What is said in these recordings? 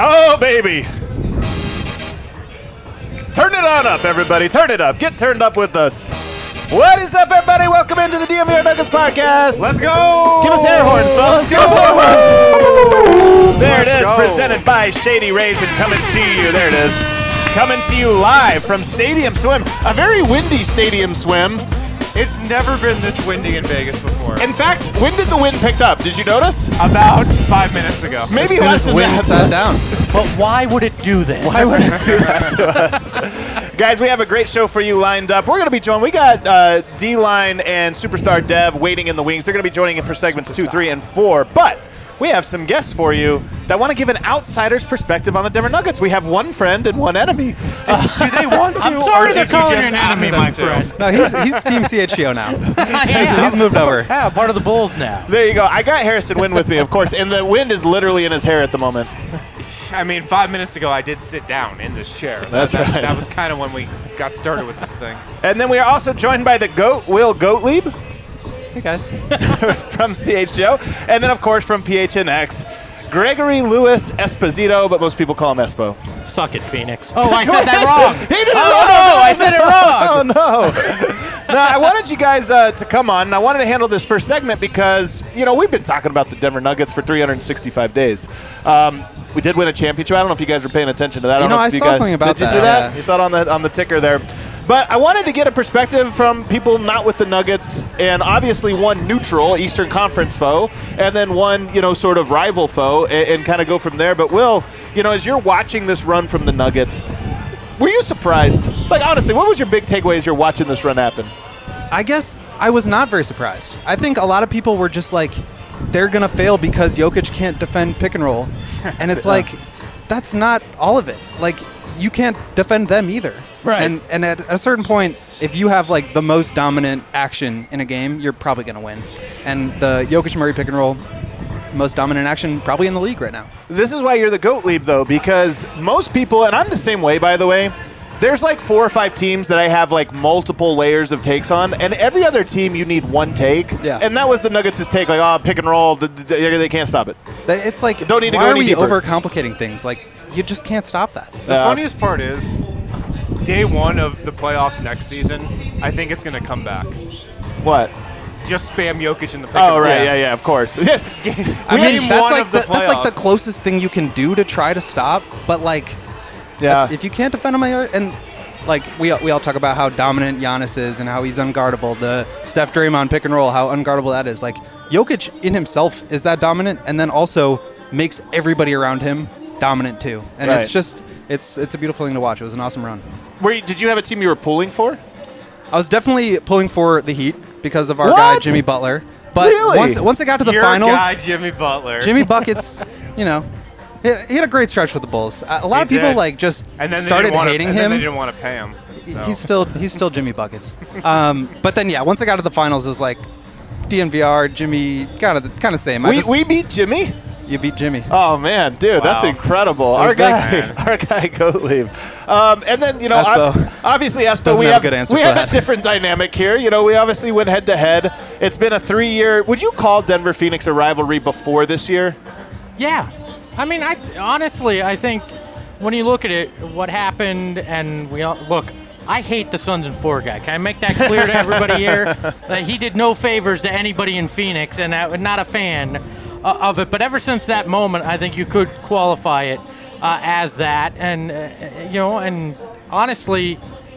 Oh, baby. Turn it on up, everybody. Turn it up. Get turned up with us. What is up, everybody? Welcome into the DNVR Nuggets podcast. Let's go. Give us air horns, fellas. Give us air horns. There it is, presented by Shady Raisin, coming to you. There it is. Coming to you live from Stadium Swim. A very windy Stadium Swim. It's never been this windy in Vegas before. In fact, when did the wind pick up? Did you notice? About 5 minutes ago. Maybe less than that. Sat down. But why would it do this? Why would it do that to us? Guys, we have a great show for you lined up. We're going to be joined. We got D-Line and Superstar Dev waiting in the wings. They're going to be joining in for segments 2, 3, and 4. But we have some guests for you that want to give an outsider's perspective on the Denver Nuggets. We have one friend and one enemy. Do they want to? I'm sorry or they're did you calling just you an ask enemy, them my to? friend. No, he's Team CHGO now. Yeah. He's moved over. Yeah, part of the Bulls now. There you go. I got Harrison Wind with me, of course, and the wind is literally in his hair at the moment. I mean, 5 minutes ago, I did sit down in this chair. That's right. That was kind of when we got started with this thing. And then we are also joined by the GOAT, Will Gottlieb, Hey guys. from CHGO, and then, of course, from PHNX, Gregory Lewis Esposito, but most people call him Espo. Suck it, Phoenix. Oh, I said that wrong. He did it Oh, wrong. no, I said it wrong. Oh, no. No, I wanted you guys to come on, and I wanted to handle this first segment because, you know, we've been talking about the Denver Nuggets for 365 days. We did win a championship. I don't know if you guys were paying attention to that. I saw something about Did you that, see that? yeah. You saw it on the ticker there. But I wanted to get a perspective from people not with the Nuggets, and obviously one neutral Eastern Conference foe, and then one, you know, sort of rival foe, and kind of go from there. But Will, you know, as you're watching this run from the Nuggets, were you surprised? Like, honestly, what was your big takeaway as you're watching this run happen? I guess I was not very surprised. I think a lot of people were just like, they're going to fail because Jokic can't defend pick and roll. And it's like, that's not all of it. Like, you can't defend them either. Right. And at a certain point, if you have like the most dominant action in a game, you're probably going to win. And the Jokic-Murray pick and roll, most dominant action probably in the league right now. This is why you're the Gottlieb, though, because most people, and I'm the same way, by the way, there's like 4 or 5 teams that I have like multiple layers of takes on, and every other team you need one take. Yeah. And that was the Nuggets' take, like, oh, pick and roll, they can't stop it. It's like, Don't need to why go are any we deeper. overcomplicating things? Like, you just can't stop that. The funniest part is, day one of the playoffs next season, I think it's going to come back. What? Just spam Jokic in the pick Oh, and right, roll. yeah, of course. I mean, Game that's one like of the that's like the playoffs. closest thing you can do to try to stop. But like, Yeah. if you can't defend him, and like we all talk about how dominant Giannis is and how he's unguardable. The Steph Draymond pick and roll, how unguardable that is. Like Jokic in himself is that dominant, and then also makes everybody around him dominant too. And Right. it's just it's a beautiful thing to watch. It was an awesome run. Did you have a team you were pulling for? I was definitely pulling for the Heat because of our What? guy Jimmy Butler. But Really? once it got to the Your finals, guy, Jimmy Butler. Jimmy Buckets, you know, he had a great stretch with the Bulls. A lot of He people did. like just and then they started didn't wanna- hating and then him. they didn't want to pay him. So. He's still Jimmy Buckets. But then yeah, once I got to the finals, it was like DNVR, Jimmy, kind of same. We beat Jimmy? You beat Jimmy. Oh man, dude, that's Wow. incredible. That Our was big, guy, man. our guy Gottlieb. And then, you know, Espo. obviously Espo, Doesn't we have have a good answer we for have that. a different dynamic here. You know, we obviously went head to head. It's been a 3-year. Would you call Denver Phoenix a rivalry before this year? Yeah. I mean, honestly, I think when you look at it, what happened, and we all look. I hate the Suns and 4 guy. Can I make that clear to everybody here? That he did no favors to anybody in Phoenix, and I'm not a fan of it. But ever since that moment, I think you could qualify it as that. And you know, and honestly,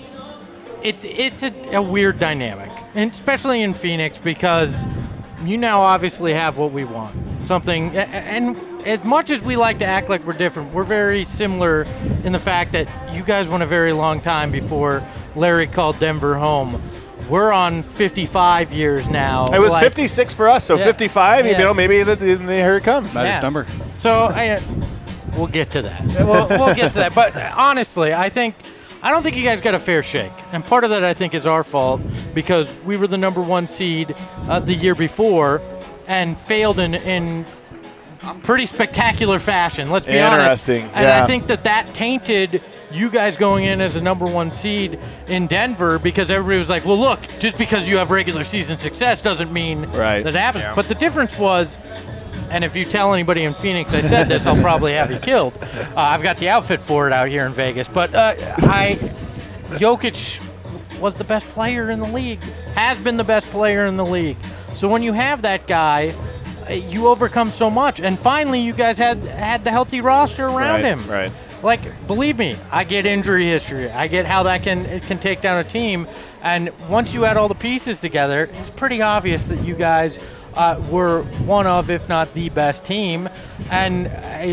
it's a weird dynamic, and especially in Phoenix because you now obviously have what we want. Something, and as much as we like to act like we're different, we're very similar in the fact that you guys went a very long time before Larry called Denver home. We're on 55 years now. It was like- 56 for us, so Yeah. 55. You Yeah. know, maybe here it comes. Magic yeah. number. So we'll get to that. We'll get to that. But honestly, I don't think you guys got a fair shake. And part of that, I think, is our fault because we were the number 1 seed the year before and failed in pretty spectacular fashion. Let's be honest. Interesting, And yeah. I think that tainted you guys going in as a number 1 seed in Denver because everybody was like, well, look, just because you have regular season success doesn't mean Right. that happens. Yeah. But the difference was And if you tell anybody in Phoenix I said this, I'll probably have you killed. I've got the outfit for it out here in Vegas. But Jokic was the best player in the league, has been the best player in the league. So when you have that guy, you overcome so much. And finally, you guys had the healthy roster around him. Right. Like, believe me, I get injury history. I get how that can take down a team. And once you had all the pieces together, it was pretty obvious that you guys were one of, if not the best team. And,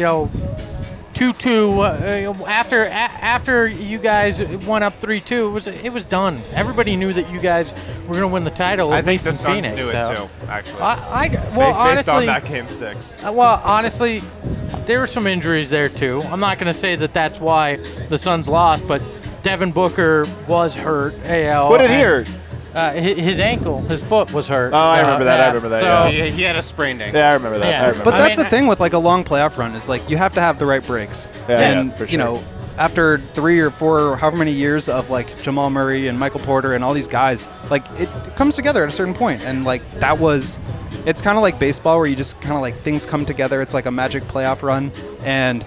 2-2 after you guys went up 3-2, it was done. Everybody knew that you guys were going to win the title. I think at the least in Suns Phoenix, knew so. it too, actually. Well, based honestly, on that game 6. well, honestly, there were some injuries there too. I'm not going to say that that's why the Suns lost, but Devin Booker was hurt. What did he hurt? His ankle, his foot was hurt. Oh, I remember that. So, He had a sprained ankle. Yeah, I remember that. Yeah. I remember But that. that's the thing with like a long playoff run is like you have to have the right breaks. And for sure. After 3 or 4 or however many years of like Jamal Murray and Michael Porter and all these guys, like it comes together at a certain point. And like it's kind of like baseball where you just kind of like things come together. It's like a magic playoff run. And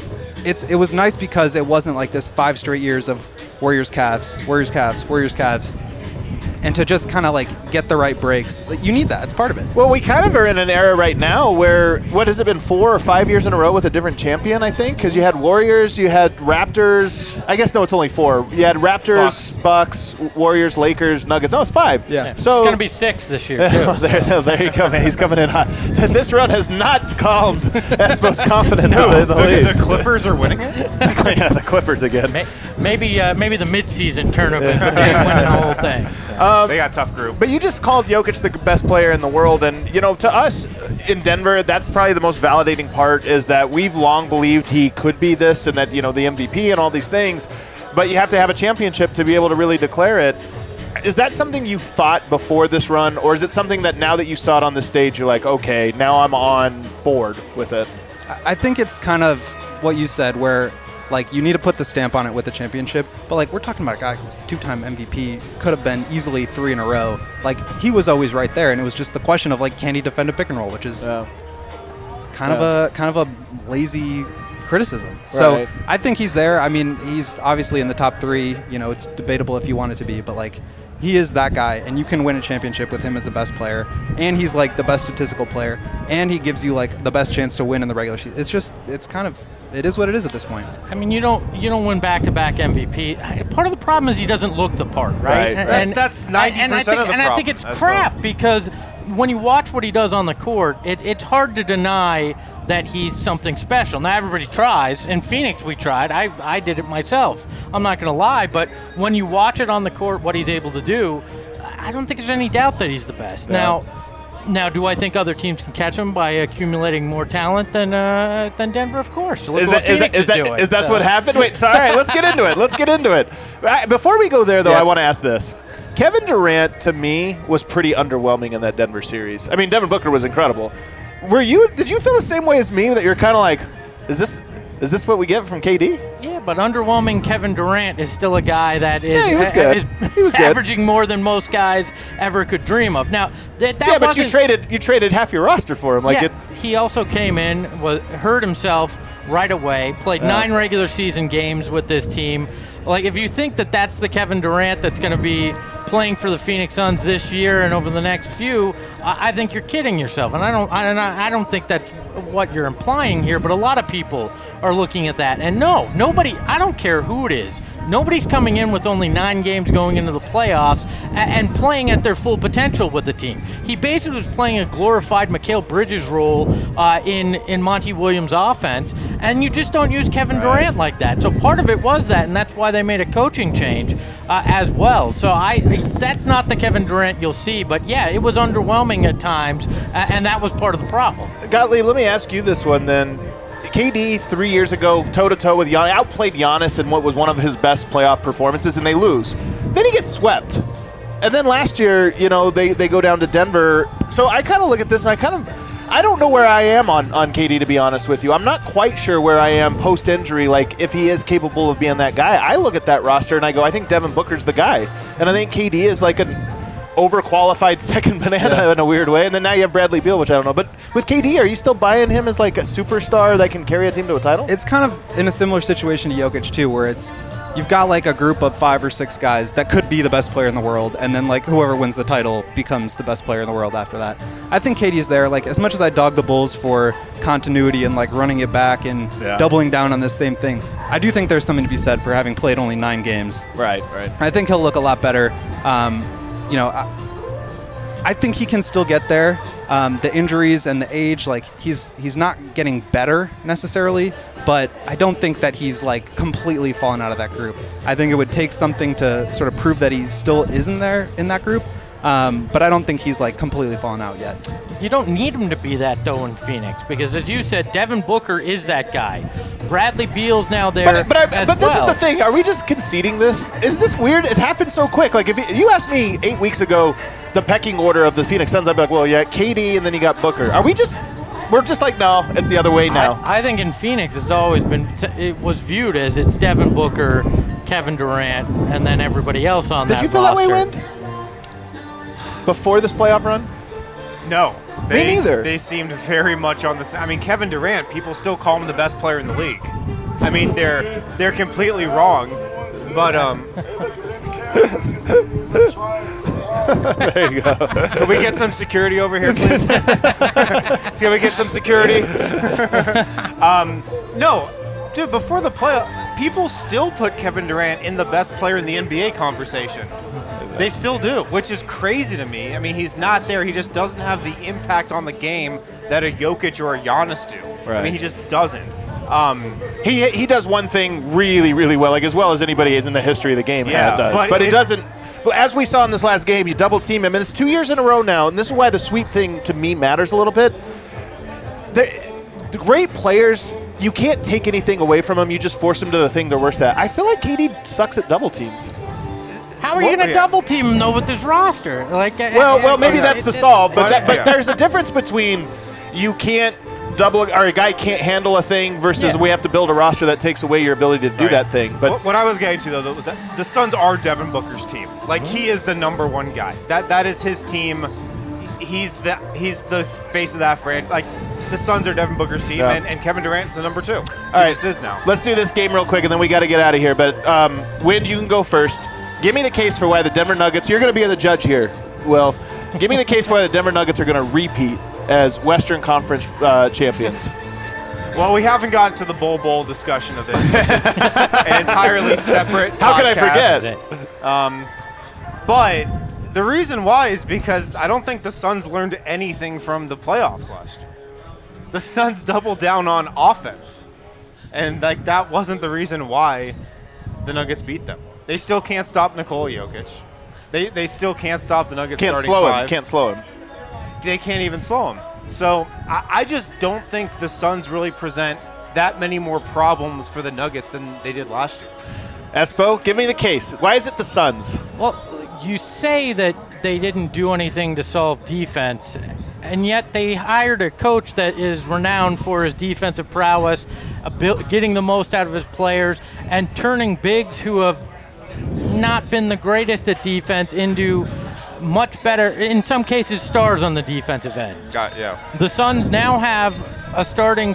it was nice because it wasn't like this 5 straight years of Warriors, Cavs, Warriors, Cavs, Warriors, Cavs. And to just kind of like get the right breaks, like, you need that. It's part of it. Well, we kind of are in an era right now where, what has it been, 4 or 5 years in a row with a different champion, I think? Because you had Warriors, you had Raptors. I guess, no, it's only 4. You had Raptors, Bucks, Warriors, Lakers, Nuggets. No, it's 5. Yeah. So it's going to be 6 this year, too. there you go, man. He's coming in hot. This run has not calmed Espo's confidence in the league. The Clippers are winning it? Yeah, the Clippers again. Maybe the midseason tournament, but they ain't winning the whole thing. They got a tough group. But you just called Jokic the best player in the world, and to us in Denver, that's probably the most validating part is that we've long believed he could be this and that the MVP and all these things, but you have to have a championship to be able to really declare it. Is that something you thought before this run, or is it something that now that you saw it on the stage, you're like, okay, now I'm on board with it? I think it's kind of what you said where like you need to put the stamp on it with the championship, but like we're talking about a guy who was 2-time MVP, could have been easily 3 in a row. Like he was always right there, and it was just the question of like, can he defend a pick and roll, which is kind of a lazy criticism. Right. So I think he's there. I mean, he's obviously in the top 3. It's debatable if you want it to be, but like he is that guy, and you can win a championship with him as the best player, and he's like the best statistical player, and he gives you like the best chance to win in the regular season. It is what it is at this point. I mean, you don't win back-to-back MVP. Part of the problem is he doesn't look the part, right? Right. That's 90% of the problem. And I think it's crap because when you watch what he does on the court, it's hard to deny that he's something special. Now, everybody tries. In Phoenix, we tried. I did it myself. I'm not going to lie. But when you watch it on the court, what he's able to do, I don't think there's any doubt that he's the best. Yeah. Now, do I think other teams can catch him by accumulating more talent than Denver? Of course. Look what Phoenix is doing. Is that what happened? Wait, sorry. All right, let's get into it. Before we go there, though, I want to ask this. Kevin Durant, to me, was pretty underwhelming in that Denver series. I mean, Devin Booker was incredible. Did you feel the same way as me, that you're kind of like, is this what we get from KD? Yeah, but underwhelming Kevin Durant is still a guy that is, he was good. He was good. averaging more than most guys ever could dream of. Now, but you traded half your roster for him. He also came in, hurt himself right away, played 9 regular season games with this team. Like, if you think that that's the Kevin Durant that's going to be playing for the Phoenix Suns this year and over the next few, I think you're kidding yourself. And I don't think that's what you're implying here, but a lot of people are looking at that. And no, nobody, I don't care who it is, nobody's coming in with only 9 games going into the playoffs and playing at their full potential with the team. He basically was playing a glorified Mikal Bridges role in Monty Williams' offense, and you just don't use Kevin Durant like that. So part of it was that, and that's why they made a coaching change as well. So that's not the Kevin Durant you'll see, but yeah, it was underwhelming at times, and that was part of the problem. Gottlieb, let me ask you this one then. KD 3 years ago, toe-to-toe with Giannis, outplayed Giannis in what was one of his best playoff performances, and they lose. Then he gets swept. And then last year, they go down to Denver. So I kind of look at this, and I don't know where I am on KD, to be honest with you. I'm not quite sure where I am post-injury, like if he is capable of being that guy. I look at that roster, and I go, I think Devin Booker's the guy. And I think KD is like overqualified second banana in a weird way, and then now you have Bradley Beal, which I don't know. But with KD, are you still buying him as like a superstar that can carry a team to a title? It's kind of in a similar situation to Jokic too, where you've got like a group of 5 or 6 guys that could be the best player in the world, and then like whoever wins the title becomes the best player in the world after that. I think KD's there. Like, as much as I dog the Bulls for continuity and like running it back and doubling down on this same thing, I do think there's something to be said for having played only 9 games. Right. I think he'll look a lot better. I think he can still get there. The injuries and the age, like he's not getting better necessarily, but I don't think that he's like completely fallen out of that group. I think it would take something to sort of prove that he still isn't there in that group. But I don't think he's like completely fallen out yet. You don't need him to be that though in Phoenix, because as you said, Devin Booker is that guy. Bradley Beal's now there. But this is the thing. Are we just conceding this? Is this weird? It happened so quick. Like if you asked me 8 weeks ago the pecking order of the Phoenix Suns, I'd be like, well, yeah, KD, and then you got Booker. We're just like, no, it's the other way now. I think in Phoenix it was viewed as it's Devin Booker, Kevin Durant, and then everybody else on that roster. Did you feel that way, Wind? Before this playoff run? No. Me neither. They seemed very much on the same. I mean, Kevin Durant, people still call him the best player in the league. I mean, they're completely wrong. But there you go. Can we get some security over here, please? Can we get some security? No. Dude, before the playoff, people still put Kevin Durant in the best player in the NBA conversation. They still do, which is crazy to me. I mean, he's not there. He just doesn't have the impact on the game that a Jokic or a Giannis do. Right. I mean, he just doesn't. He does one thing really, really well, like as well as anybody in the history of the game does. But it doesn't. As we saw in this last game, you double team him, and it's 2 years in a row now, and this is why the sweep thing to me matters a little bit. The great players, you can't take anything away from them. You just force them to the thing they're worst at. I feel like KD sucks at double teams. How are you going to double team him though with this roster? Well, maybe that's the solve. But there's a difference between you can't double, or a guy can't handle a thing versus we have to build a roster that takes away your ability to do that thing. But what I was getting to though was that the Suns are Devin Booker's team. Like, he is the number one guy. That is his team. He's the face of that franchise. Like, the Suns are Devin Booker's team, and Kevin Durant's the number 2. All right, just is now. Let's do this game real quick, and then we got to get out of here. But Wind, you can go first. Give me the case for why the Denver Nuggets. You're going to be the judge here. Well, give me the case for why the Denver Nuggets are going to repeat as Western Conference champions. Well, we haven't gotten to the Bowl discussion of this, which is an entirely separate How podcast. could I forget? But the reason why is because I don't think the Suns learned anything from the playoffs last year. The Suns doubled down on offense, and that wasn't the reason why the Nuggets beat them. They still can't stop Nikola Jokic. They still can't stop the Nuggets starting five. Can't slow him. They can't even slow him. So I just don't think the Suns really present that many more problems for the Nuggets than they did last year. Espo, give me the case. Why is it the Suns? Well, you say that they didn't do anything to solve defense, and yet they hired a coach that is renowned for his defensive prowess, getting the most out of his players, and turning bigs who have not been the greatest at defense into much better, in some cases, stars on the defensive end. The Suns now have a starting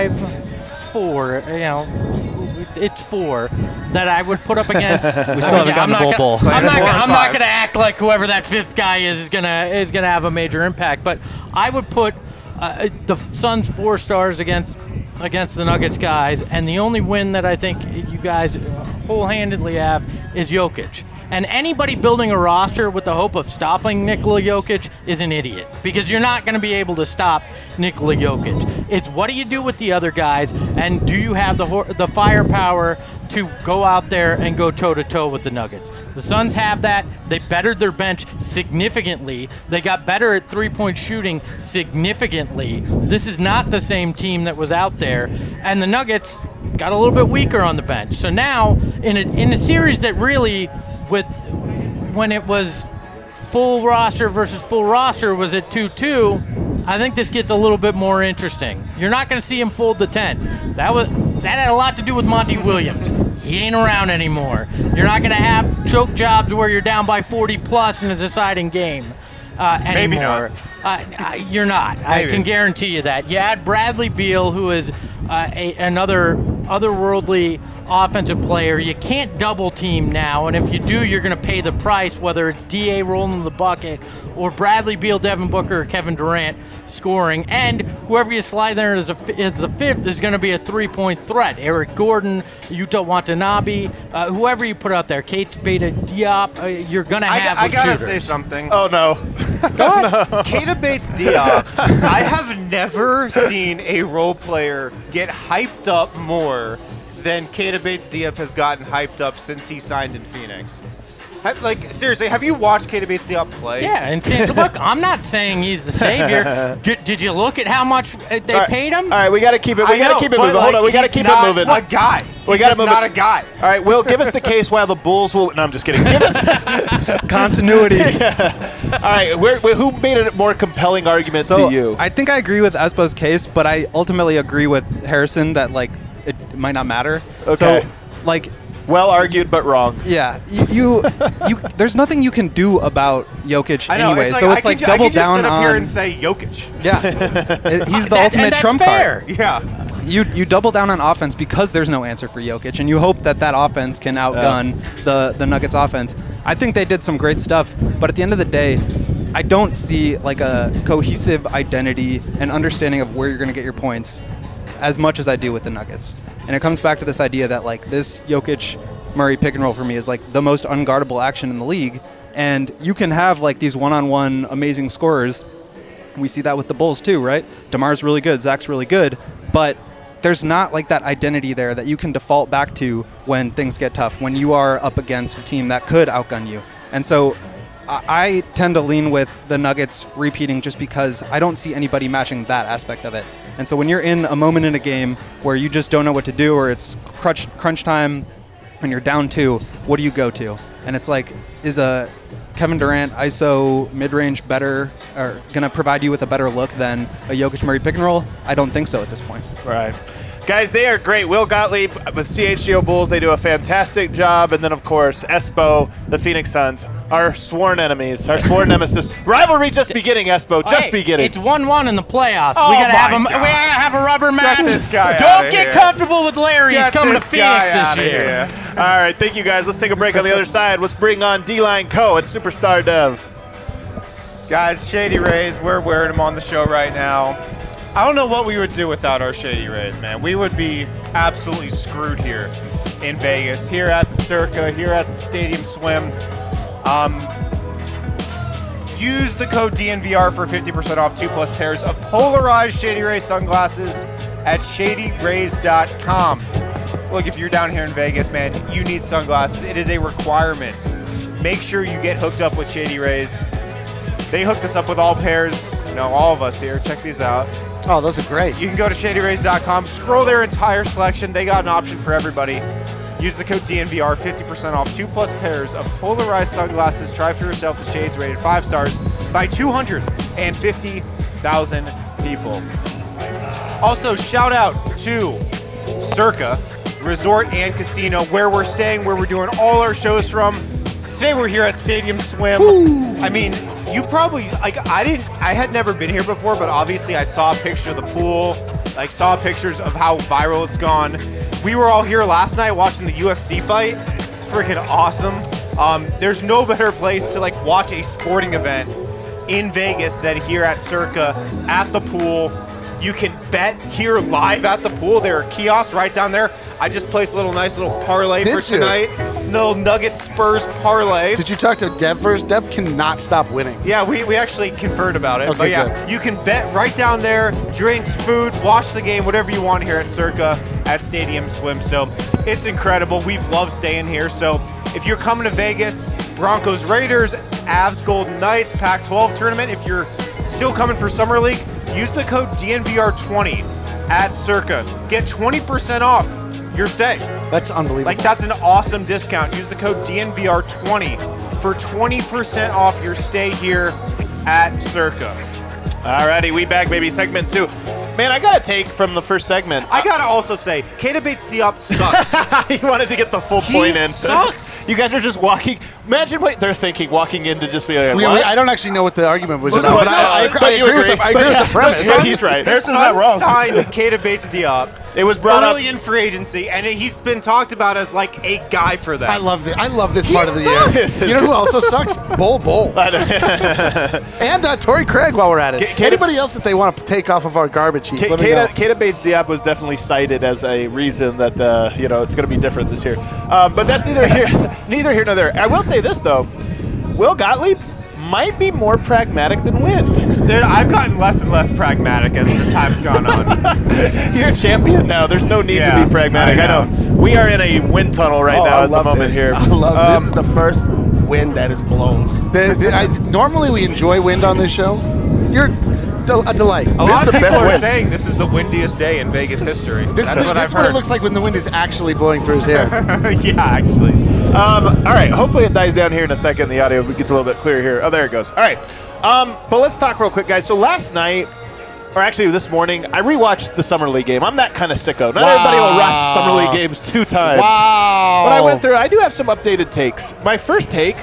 4, it's 4 that I would put up against. We still haven't gotten the Bowl. I'm not going to act like whoever that 5th guy is going to have a major impact, but I would put the Suns 4 stars against the Nuggets guys, and the only win that I think you guys whole-handedly have is Jokic. And anybody building a roster with the hope of stopping Nikola Jokic is an idiot, because you're not going to be able to stop Nikola Jokic. It's what do you do with the other guys, and do you have the firepower to go out there and go toe-to-toe with the Nuggets? The Suns have that. They bettered their bench significantly. They got better at three-point shooting significantly. This is not the same team that was out there, and the Nuggets got a little bit weaker on the bench. So now, in a series that really, when it was full roster versus full roster, was at 2-2, I think this gets a little bit more interesting. You're not going to see him fold the 10. That had a lot to do with Monty Williams. He ain't around anymore. You're not going to have choke jobs where you're down by 40 plus in a deciding game anymore. Maybe not. You're not. Maybe. I can guarantee you that. You add Bradley Beal, who is another otherworldly offensive player. You can't double team now, and if you do, you're going to pay the price, whether it's DA rolling the bucket or Bradley Beal, Devin Booker, or Kevin Durant scoring. And whoever you slide there as the fifth is going to be a three-point threat. Eric Gordon, Yuta Watanabe, whoever you put out there, Kate Beta Diop, you're going to have I gotta shooters. say something. Oh, no. Keita Bates Diop, I have never seen a role player get hyped up more than Keita Bates Diop has gotten hyped up since he signed in Phoenix. Seriously, have you watched Keita Bates Diop play? Yeah, and look, I'm not saying he's the savior. Did you look at how much they paid him? All right, we got to keep it. I know, moving. but, Hold on, we got to he's keep not it moving. A guy. We He's gotta just move not it. a guy. All right, Will, give us the case why the Bulls will. No, I'm just kidding. Give us Continuity. All right, who made a more compelling argument So to you? I think I agree with Espo's case, but I ultimately agree with Harrison that it might not matter. Okay. So Well argued, but wrong. yeah, you there's nothing you can do about Jokic I know. anyway. It's So it's I double can just down sit up on. here and say Jokic. Yeah, he's the ultimate and that's trump fair. card. Yeah. You double down on offense because there's no answer for Jokic, and you hope that offense can outgun the Nuggets offense. I think they did some great stuff, but at the end of the day, I don't see a cohesive identity and understanding of where you're going to get your points as much as I do with the Nuggets. And it comes back to this idea that this Jokic-Murray pick and roll for me is the most unguardable action in the league, and you can have these one-on-one amazing scorers. We see that with the Bulls too, right? DeMar's really good, Zach's really good, but there's not that identity there that you can default back to when things get tough, when you are up against a team that could outgun you. And so I tend to lean with the Nuggets repeating just because I don't see anybody matching that aspect of it. And so when you're in a moment in a game where you just don't know what to do, or it's crunch time and you're down 2, what do you go to? And it's is a Kevin Durant ISO mid-range better, or going to provide you with a better look than a Jokic-Murray pick and roll? I don't think so at this point. Right. Guys, they are great. Will Gottlieb with CHGO Bulls, they do a fantastic job. And then, of course, Espo, the Phoenix Suns, our sworn enemies, our sworn nemesis. Rivalry just beginning, Espo, just beginning. It's 1-1 in the playoffs. Oh we gotta my we gotta have a rubber match. Get this guy Don't outta get here. comfortable with Larry. He's Get coming to this guy Phoenix outta this year. here. All right, thank you, guys. Let's take a break on the other side. Let's bring on D-Line Co. and Superstar Dev. Guys, Shady Rays, we're wearing them on the show right now. I don't know what we would do without our Shady Rays, man. We would be absolutely screwed here in Vegas, here at the Circa, here at Stadium Swim. Use the code DNVR for 50% off 2+ pairs of polarized Shady Ray sunglasses at shadyrays.com. Look, if you're down here in Vegas, man, you need sunglasses. It is a requirement. Make sure you get hooked up with Shady Rays. They hooked us up with all pairs, all of us here. Check these out. Oh, those are great. You can go to shadyrays.com, scroll their entire selection. They got an option for everybody. Use the code DNVR, 50% off 2+ pairs of polarized sunglasses. Try for yourself the shades rated 5 stars by 250,000 people. Also, shout out to Circa Resort and Casino, where we're staying, where we're doing all our shows from. Today we're here at Stadium Swim. Woo. I mean, you probably, I had never been here before, but obviously I saw a picture of the pool, saw pictures of how viral it's gone. We were all here last night watching the UFC fight. It's freaking awesome. There's no better place to watch a sporting event in Vegas than here at Circa at the pool. You can bet here live at the pool. There are kiosks right down there. I just placed a nice little parlay for tonight. Little Nuggets Spurs parlay. Did you talk to Dev first? Dev cannot stop winning. Yeah, we actually conferred about it. Okay, but yeah, good. You can bet right down there, drinks, food, watch the game, whatever you want here at Circa at Stadium Swim. So it's incredible. We've loved staying here. So if you're coming to Vegas, Broncos Raiders, Avs Golden Knights, Pac-12 tournament, if you're still coming for Summer League, use the code DNVR20 at Circa. Get 20% off your stay. That's unbelievable. That's an awesome discount. Use the code DNVR20 for 20% off your stay here at Circa. Alrighty, we back, baby. Segment 2. Man, I got a take from the first segment. I gotta also say, Keita Bates-Diop sucks. He wanted to get the full point in. Sucks. You guys are just walking. Imagine what they're thinking, walking in to just be like, We- what? I don't actually know what the argument was No, about, but I but you agree with agree. I agree with the premise. Yeah, he's right. The Harrison's not Suns wrong. signed Keita Bates-Diop It was brought up. early in free agency, and he's been talked about as like a guy for them. I love this He part of the sucks. year. You know who also sucks? Bol. And Torrey Craig while we're at it. Keita- Anybody else that they want to take off of our garbage heap? Let me know. Keita Bates-Diop was definitely cited as a reason that it's going to be different this year. But that's neither here nor there. I will say this though, Will Gottlieb might be more pragmatic than Wind. Dude, I've gotten less and less pragmatic as the time's gone on. You're a champion now. There's no need to Yeah, be pragmatic. I know. We are in a wind tunnel right now I at the love moment this. here. I love this. Is the first wind that is blown. Normally we enjoy wind on this show. You're a delight. A lot is of the people best are win. saying this is the windiest day in Vegas history. This That's is what I've this what it heard. looks like when the wind is actually blowing through his hair. Yeah, actually. All right. Hopefully it dies down here in a second. The audio gets a little bit clearer here. Oh, there it goes. All right. But let's talk real quick, guys. So last night, or actually this morning, I rewatched the Summer League game. I'm that kind of sicko. Not everybody will watch Summer League games 2 times. Wow. But I went through. I do have some updated takes. My first take,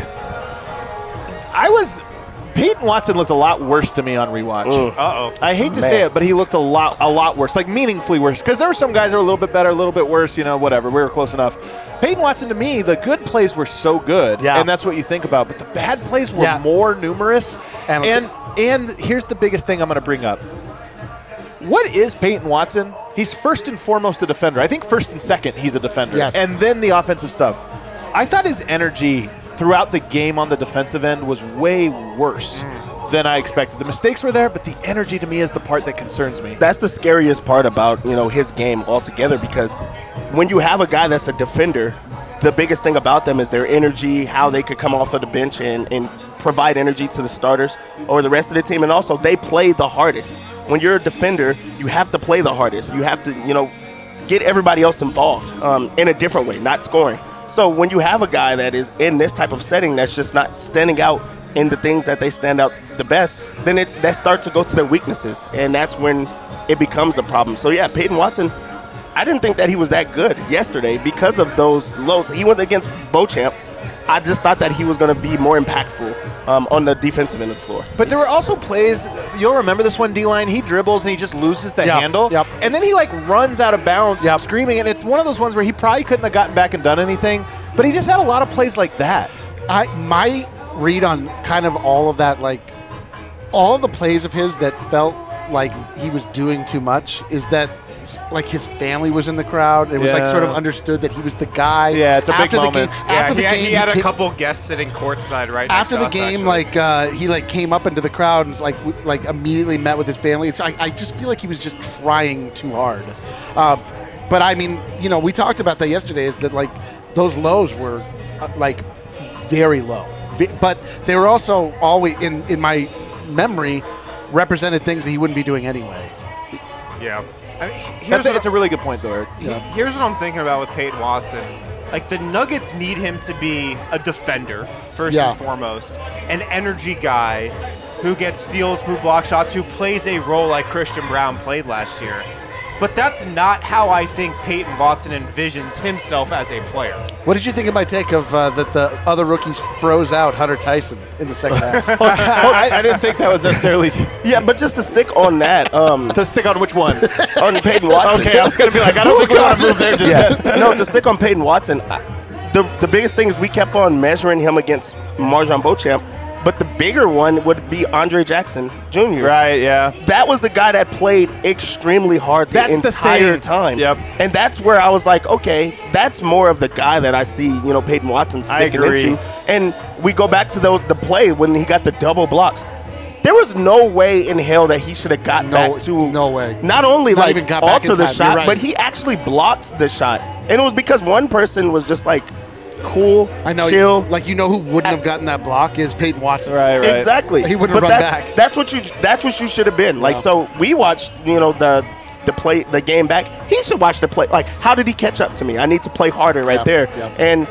Peyton Watson looked a lot worse to me on rewatch. Uh-oh. I hate to say it, but he looked a lot worse, like meaningfully worse. Because there were some guys that were a little bit better, a little bit worse, whatever. We were close enough. Peyton Watson, to me, the good plays were so good, Yeah. and that's what you think about. But the bad plays were Yeah. more numerous. And- And here's the biggest thing I'm going to bring up. What is Peyton Watson? He's first and foremost a defender. I think first and second he's a defender. Yes. And then the offensive stuff. I thought his energy throughout the game on the defensive end was way worse than I expected. The mistakes were there, but the energy to me is the part that concerns me. That's the scariest part about his game altogether, because when you have a guy that's a defender, the biggest thing about them is their energy, how they could come off of the bench and provide energy to the starters or the rest of the team. And also, they play the hardest. When you're a defender, you have to play the hardest. You have to, get everybody else involved in a different way, not scoring. So when you have a guy that is in this type of setting that's just not standing out in the things that they stand out the best, then that starts to go to their weaknesses, and that's when it becomes a problem. So yeah, Peyton Watson, I didn't think that he was that good yesterday because of those lows. He went against Beauchamp. I just thought that he was going to be more impactful on the defensive end of the floor. But there were also plays, you'll remember this one, D-line, he dribbles and he just loses the handle. Yep. And then he runs out of bounds screaming, and it's one of those ones where he probably couldn't have gotten back and done anything, but he just had a lot of plays like that. My read on kind of all of that, all of the plays of his that felt like he was doing too much, is that his family was in the crowd. It was sort of understood that he was the guy. Yeah, it's a big moment. After the game, he had a couple guests sitting courtside right next after to the us, game, actually. he came up into the crowd and immediately met with his family. I just feel like he was just trying too hard. But I mean, we talked about that yesterday. Is that those lows were very low, but they were also always in my memory represented things that he wouldn't be doing anyway. Yeah. I mean, It's a really good point, though, Eric. Here's what I'm thinking about with Peyton Watson. The Nuggets need him to be a defender, first and foremost, an energy guy who gets steals, who block shots, who plays a role like Christian Brown played last year. But that's not how I think Peyton Watson envisions himself as a player. What did you think of my take of that the other rookies froze out Hunter Tyson in the second half? I didn't think that was necessarily Yeah, but just to stick on that, to stick on which one? on Peyton Watson. Okay, I was going to be I don't think we want to move there just yet. No, to stick on Peyton Watson, the biggest thing is we kept on measuring him against Marjon Beauchamp, but the bigger one would be Andre Jackson Jr. Right, yeah. That was the guy that played extremely hard the That's the entire thing. time. Yep. And that's where I was like, okay, that's more of the guy that I see, Peyton Watson sticking agree. into. And we go back to the play when he got the double blocks. There was no way in hell that he should have got back to. No way. Not only Not even got back in alter the time. shot, You're right. but he actually blocks the shot. And it was because one person was just cool, I know. chill. Who wouldn't have gotten that block is Peyton Watson. Right. Exactly. He wouldn't have but run that's, back. That's what you should have been. Yeah. So we watched, the game back. He should watch the play. How did he catch up to me? I need to play harder right there. Yep. And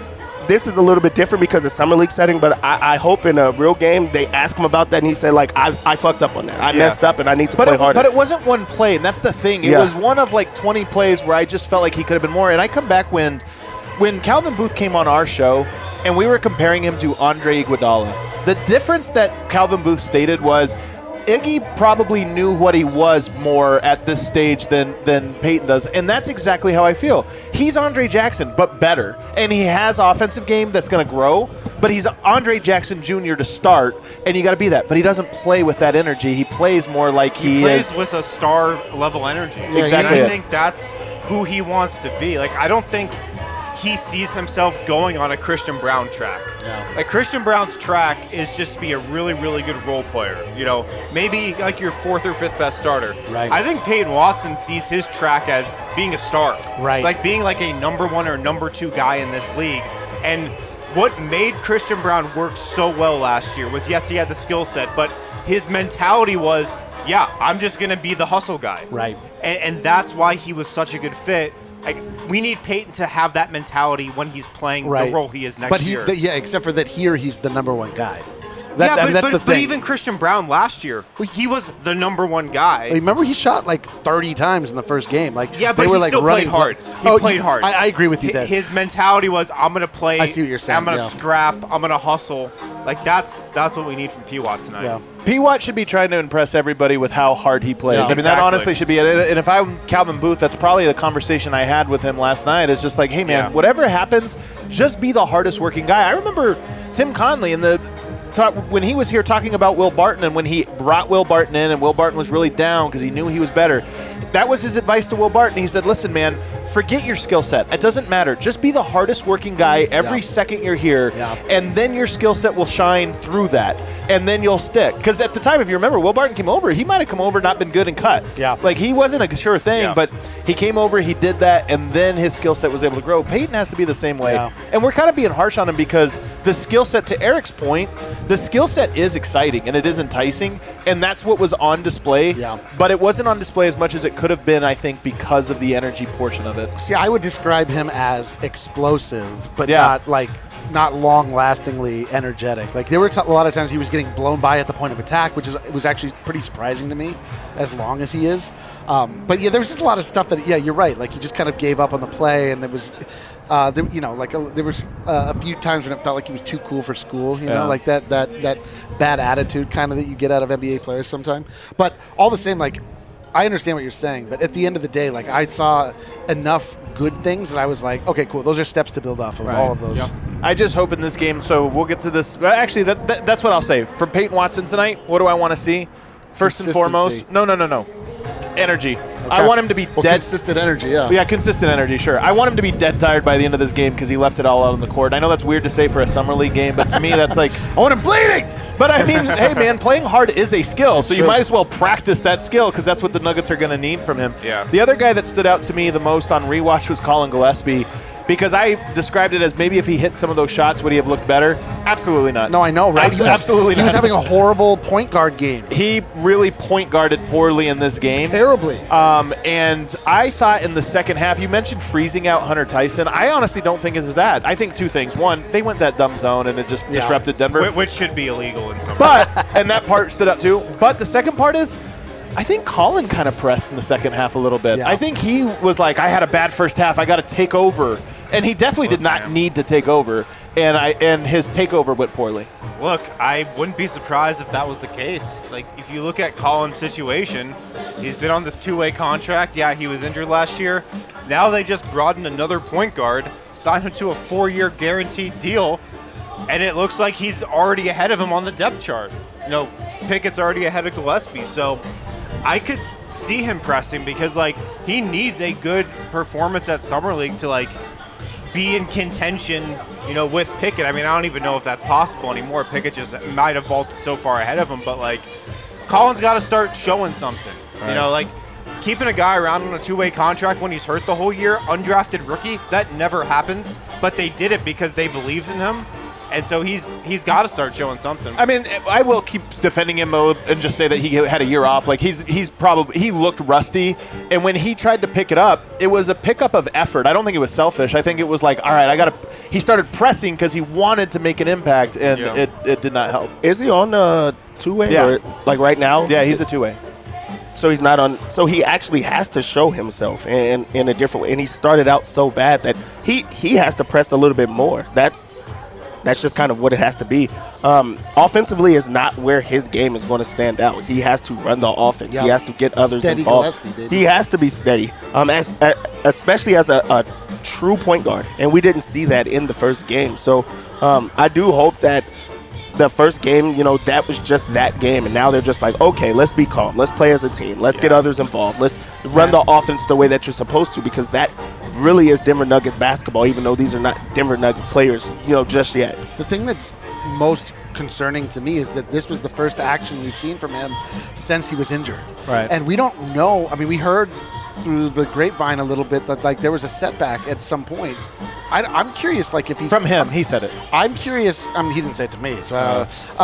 this is a little bit different because it's summer league setting, but I hope in a real game they ask him about that and he said, like, I fucked up on that. I messed up and I need to play harder. But it wasn't one play, and that's the thing. It was one of like 20 plays where I just felt like he could have been more. And I come back when Calvin Booth came on our show and we were comparing him to Andre Iguodala. The difference that Calvin Booth stated was Iggy probably knew what he was more at this stage than Peyton does, and that's exactly how I feel. He's Andre Jackson, but better, and he has offensive game that's going to grow, but he's Andre Jackson Jr. to start, and you got to be that. But he doesn't play with that energy. He plays more like he plays is with a star-level energy. Exactly. And I think that's who he wants to be. Like, I don't think he sees himself going on a Christian Brown track. Yeah. Like, Christian Brown's track is just to be a really, really good role player. You know, maybe like your 4th or 5th best starter. Right. I think Peyton Watson sees his track as being a star. Right. Like being like a number 1 or number 2 guy in this league. And what made Christian Brown work so well last year was, yes, he had the skill set, but his mentality was, yeah, I'm just going to be the hustle guy. Right. And that's why he was such a good fit. Like, we need Peyton to have that mentality when he's playing the role he is next year. Except for that here he's the number 1 guy. That's the thing. But even Christian Brown last year, he was the number 1 guy. Remember, he shot like 30 times in the first game. Like, yeah, but they were he like still running played hard. He played hard. I agree with you there. His mentality was, I'm going to play. I see what you're saying. I'm going to yeah. scrap. I'm going to hustle. Like, that's what we need from P-Watt tonight. Yeah. P-Watt should be trying to impress everybody with how hard he plays. Yeah, I mean, that honestly should be it. And if I'm Calvin Booth, that's probably the conversation I had with him last night. Is just like, hey, man, whatever happens, just be the hardest working guy. I remember Tim Conley in the talk when he was here talking about Will Barton, and when he brought Will Barton in and Will Barton was really down because he knew he was better. That was his advice to Will Barton. He said, listen, man, forget your skill set. It doesn't matter. Just be the hardest working guy every second you're here, and then your skill set will shine through that, and then you'll stick. Because at the time, if you remember, Will Barton came over. He might have come over, not been good and cut. Yeah. Like, he wasn't a sure thing, but he came over, he did that, and then his skill set was able to grow. Peyton has to be the same way. Yeah. And we're kind of being harsh on him because the skill set, to Eric's point, the skill set is exciting and it is enticing, and that's what was on display. Yeah. But it wasn't on display as much as it could have been, I think, because of the energy portion of it. See, I would describe him as explosive, but not long-lastingly energetic. Like, there were a lot of times he was getting blown by at the point of attack, which was actually pretty surprising to me, as long as he is. But yeah, there was just a lot of stuff that, you're right. Like, he just kind of gave up on the play, and there was, there was a few times when it felt like he was too cool for school. You know, like that bad attitude kind of that you get out of NBA players sometimes. But all the same, like, I understand what you're saying, but at the end of the day, like, I saw enough good things that I was like, okay, cool. Those are steps to build off of all of those. Yep. I just hope in this game, so we'll get to this. Actually, that's what I'll say. For Peyton Watson tonight, what do I want to see? First and foremost, no. Energy. Okay. I want him to be dead. Consistent energy, yeah. Yeah, consistent energy, sure. I want him to be dead tired by the end of this game because he left it all out on the court. I know that's weird to say for a summer league game, but to me that's like I want him bleeding! But I mean, hey man, playing hard is a skill, so you might as well practice that skill because that's what the Nuggets are going to need from him. Yeah. The other guy that stood out to me the most on rewatch was Colin Gillespie, because I described it as maybe if he hit some of those shots, would he have looked better? Absolutely not. No, I know, right? Absolutely not. He was having a horrible point guard game. He really point guarded poorly in this game. Terribly. And I thought in the second half, you mentioned freezing out Hunter Tyson. I honestly don't think it's that. I think two things. One, they went that dumb zone and it just disrupted Denver. Which should be illegal in some But, and that part stood out too. But the second part is, I think Colin kind of pressed in the second half a little bit. Yeah. I think he was like, I had a bad first half. I got to take over. And he definitely did not need to take over. And his takeover went poorly. Look, I wouldn't be surprised if that was the case. Like, if you look at Colin's situation, he's been on this two-way contract. Yeah, he was injured last year. Now they just brought in another point guard, signed him to a 4-year guaranteed deal, and it looks like he's already ahead of him on the depth chart. You know, Pickett's already ahead of Gillespie. So I could see him pressing because, like, he needs a good performance at Summer League to, like, be in contention, you know, with Pickett. I mean, I don't even know if that's possible anymore. Pickett just might have vaulted so far ahead of him, but, like, Colin's got to start showing something. Right. You know, like, keeping a guy around on a two-way contract when he's hurt the whole year, undrafted rookie, that never happens, but they did it because they believed in him. And so he's got to start showing something. I mean, I will keep defending him and just say that he had a year off. Like he looked rusty, and when he tried to pick it up, it was a pickup of effort. I don't think it was selfish. I think it was like, all right, he started pressing because he wanted to make an impact, and it did not help. Is he on the two-way? Yeah. Or, like right now? Yeah, he's a two-way. So he's not on. So he actually has to show himself in a different way. And he started out so bad that he has to press a little bit more. That's just kind of what it has to be. Offensively is not where his game is going to stand out. He has to run the offense. Yep. He has to get others Steady involved. Gillespie, baby. He has to be steady, especially as a true point guard. And we didn't see that in the first game. So I do hope that the first game, that was just that game. And now they're just like, okay, let's be calm. Let's play as a team. Let's get others involved. Let's run the offense the way that you're supposed to, because that really is Denver Nuggets basketball, even though these are not Denver Nuggets players, just yet. The thing that's most concerning to me is that this was the first action we've seen from him since he was injured. Right. And we don't know. I mean, we heard through the grapevine a little bit that like there was a setback at some point. I'm curious, like if he's From him, he said it. I'm curious. I mean, he didn't say it to me, so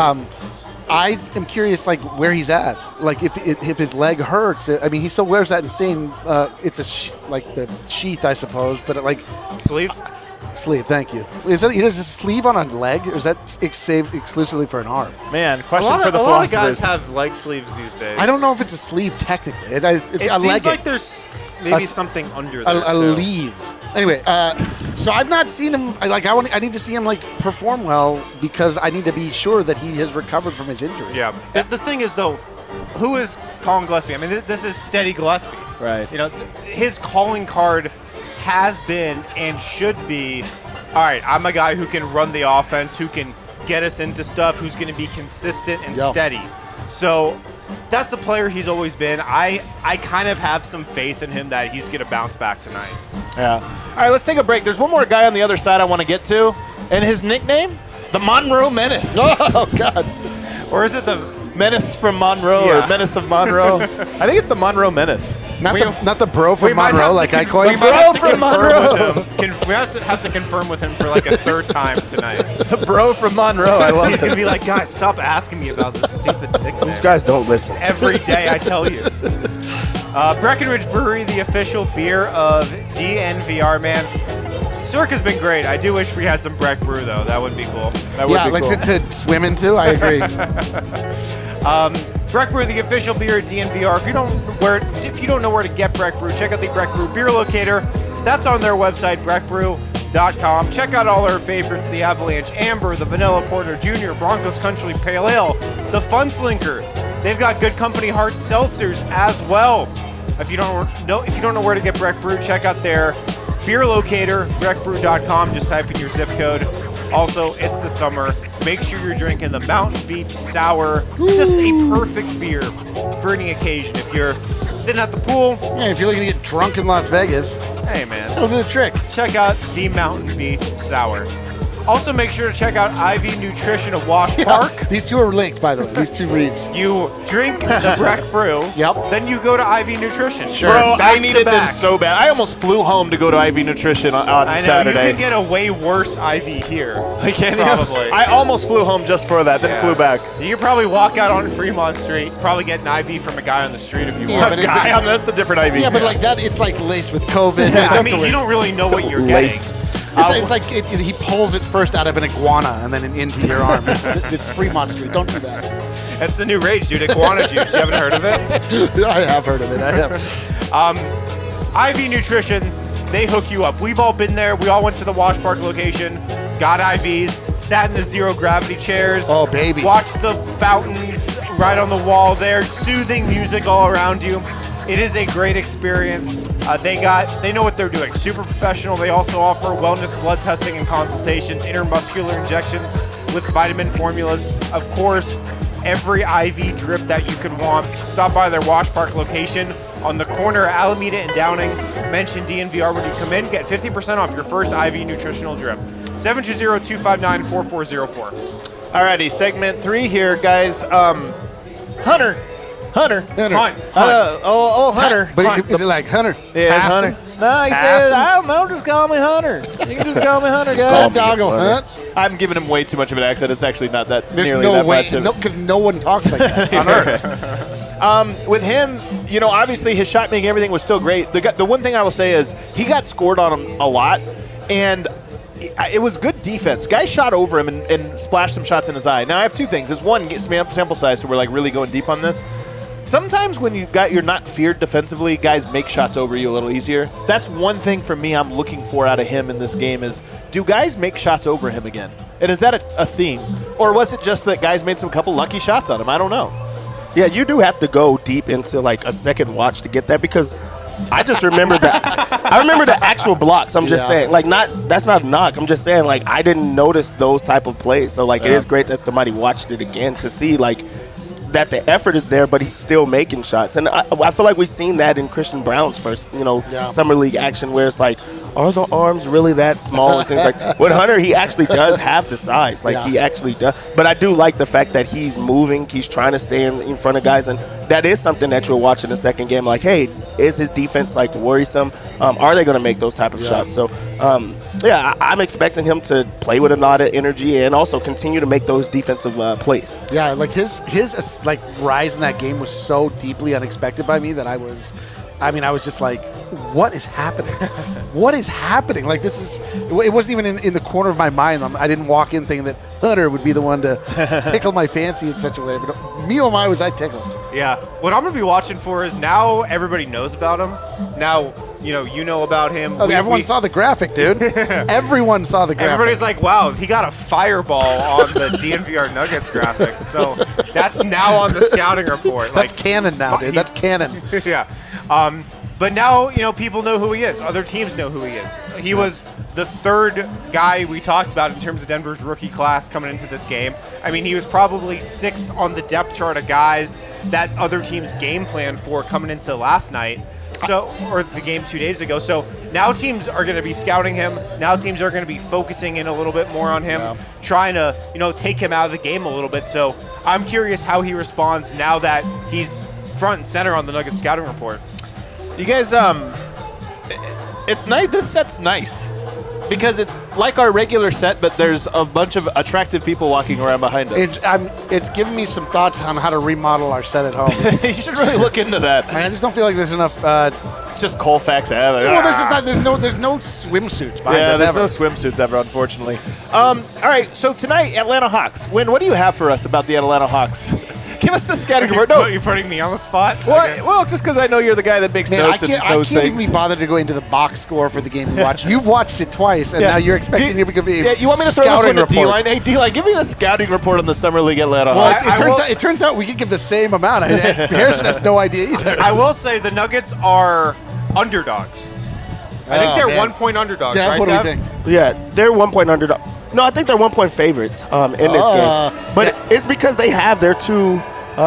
I am curious, like where he's at. Like if his leg hurts. I mean, he still wears that insane. It's like the sheath, I suppose, but Sleeve? sleeve. Thank you. Is that he does a sleeve on a leg, or is that saved exclusively for an arm? Man, A question lot for of the guys philosophers. have leg sleeves these days. I don't know if it's a sleeve technically. It's It a seems leg. like there's maybe something under there. a too. leave. Anyway, so I've not seen him. I need to see him perform well because I need to be sure that he has recovered from his injury. Yeah. The thing is, though, who is Colin Gillespie? I mean, this is steady Gillespie. Right. His calling card has been and should be, all right, I'm a guy who can run the offense, who can get us into stuff, who's going to be consistent and steady. So that's the player he's always been. I kind of have some faith in him that he's going to bounce back tonight. Yeah. All right, let's take a break. There's one more guy on the other side I want to get to, and his nickname, the Monroe Menace. Oh God. Or is it the Menace from Monroe Yeah. or Menace of Monroe. I think it's the Monroe Menace. Not the bro from Monroe, like I coined. We might have to Bro from confirm with him. We have to confirm with him for like a third time tonight. The bro from Monroe. I love He's it. gonna be like, guys, stop asking me about this stupid nickname. These guys don't listen. Every day, I tell you. Breckenridge Brewery, the official beer of DNVR, man. Circa's been great. I do wish we had some Breck Brew though. That would be cool. That would Yeah, be like cool. to swim into. I agree. Breck Brew, the official beer at DNVR. If you don't know where to get Breck Brew, check out the Breck Brew beer locator. That's on their website, breckbrew.com. Check out all our favorites: the Avalanche Amber, the Vanilla Porter Jr., Broncos Country Pale Ale, the Fun Slinker. They've got Good Company Hard Seltzers as well. If you don't know where to get Breck Brew, check out their beer locator, breckbrew.com. Just type in your zip code. Also, it's the summer. Make sure you're drinking the Mountain Beach Sour. Just a perfect beer for any occasion. If you're sitting at the pool, Yeah, if you're looking to get drunk in Las Vegas, hey man, it'll do the trick. check out the Mountain Beach Sour. Also, make sure to check out IV Nutrition of Wash Park. These two are linked, by the way. These two reads. You drink the Breck Brew. Yep. Then you go to IV Nutrition. Bro, Back I to needed them back. so bad. I almost flew home to go to IV Nutrition on I know, Saturday. you can get a way worse IV here. Can you? Probably. I almost flew home just for that, then Yeah. flew back. You could probably walk out on Fremont Street, probably get an IV from a guy on the street if you Yeah, want. but if Guy, that's a different IV. Yeah, but like that, it's like laced with COVID. Yeah, I have to mean, worry. you don't really know what you're Laced. getting. It's like he pulls it first out of an iguana and then into your arm. It's Fremont Street. Don't do that. That's the new rage, dude. Iguana juice. You haven't heard of it? I have heard of it. I have. IV Nutrition, they hook you up. We've all been there. We all went to the Wash Park location, got IVs, sat in the zero gravity chairs. Oh, baby. Watched the fountains right on the wall there, soothing music all around you. It is a great experience. They know what they're doing. Super professional. They also offer wellness blood testing and consultations, intermuscular injections with vitamin formulas. Of course, every IV drip that you could want. Stop by their Wash Park location on the corner of Alameda and Downing. Mention DNVR when you come in. Get 50% off your first IV nutritional drip. 720-259-4404. Alrighty, segment 3 here, guys. Hunter. Hunt. Hunter. Hunt. Hunter. But is it like Hunter? Yeah, it's Passing? Hunter. No, he says, I don't know, just call me Hunter. You can just call me Hunter, guys. Doggo Hunt. I'm giving him way too much of an accent. It's actually not that There's nearly no that way, much. Of because no one talks like that on Earth. With him, obviously his shot making, everything was still great. The one thing I will say is he got scored on him a lot, and it was good defense. Guys shot over him and splashed some shots in his eye. Now I have two things. It's one, get sample size, so we're like really going deep on this. Sometimes when you're not feared defensively, guys make shots over you a little easier. That's one thing for me I'm looking for out of him in this game is, do guys make shots over him again? And is that a theme? Or was it just that guys made some couple lucky shots on him? I don't know. Yeah, you do have to go deep into like a second watch to get that, because I just remember that. I remember the actual blocks. I'm just saying, like, that's not a knock. I'm just saying, like, I didn't notice those type of plays. So, like, it is great that somebody watched it again to see, like, that the effort is there, but he's still making shots. And I feel like we've seen that in Christian Brown's first, summer league action, where it's like, are the arms really that small and things like that. With Hunter, he actually does have the size. Like, he actually does. But I do like the fact that he's moving. He's trying to stay in front of guys. And that is something that you'll watch in the second game. Like, hey, is his defense, like, worrisome? Are they going to make those type of shots? So, I'm expecting him to play with a lot of energy and also continue to make those defensive plays. Yeah, like his like rise in that game was so deeply unexpected by me that I was just like, what is happening? What is happening? Like, it wasn't even in the corner of my mind. I didn't walk in thinking that Hunter would be the one to tickle my fancy in such a way. But me, oh my, was I tickled. Yeah. What I'm going to be watching for is now everybody knows about him. Now, you know about him. Oh, everyone saw the graphic, dude. Everyone saw the graphic. Everybody's like, wow, he got a fireball on the DNVR Nuggets graphic. So that's now on the scouting report. That's canon now, dude. That's canon. Yeah. But now, people know who he is. Other teams know who he is. He was the third guy we talked about in terms of Denver's rookie class coming into this game. I mean, he was probably sixth on the depth chart of guys that other teams game planned for coming into last night. Or the game 2 days ago. So now teams are going to be scouting him. Now teams are going to be focusing in a little bit more on him, trying to, take him out of the game a little bit. So I'm curious how he responds now that he's front and center on the Nuggets scouting report. You guys, it's nice. This set's nice because it's like our regular set, but there's a bunch of attractive people walking around behind us. It's giving me some thoughts on how to remodel our set at home. You should really look into that. I just don't feel like there's enough. It's just Colfax Ave. Well, there's no swimsuits behind us. There's ever. no swimsuits ever, unfortunately. All right, so tonight, Atlanta Hawks. Win. What do you have for us about the Atlanta Hawks? Give us the scouting report. No, you're putting me on the spot. Well, just because I know you're the guy that makes notes and knows I can't things. even bother to go into the box score for the game we watched. You've watched it twice, and now you're expecting it to be Yeah, you want me to throw this one to D-Line? Hey, D-Line, give me the scouting report on the Summer League Atlanta Hawks. Well, it turns out we could give the same amount. Harrison has no idea either. I will say the Nuggets are underdogs. I think they're 1 point underdogs, Dev, right, what do you Dev? think? Yeah, they're 1 point underdog. No, I think they're 1 point favorites in this game. But it's because they have their two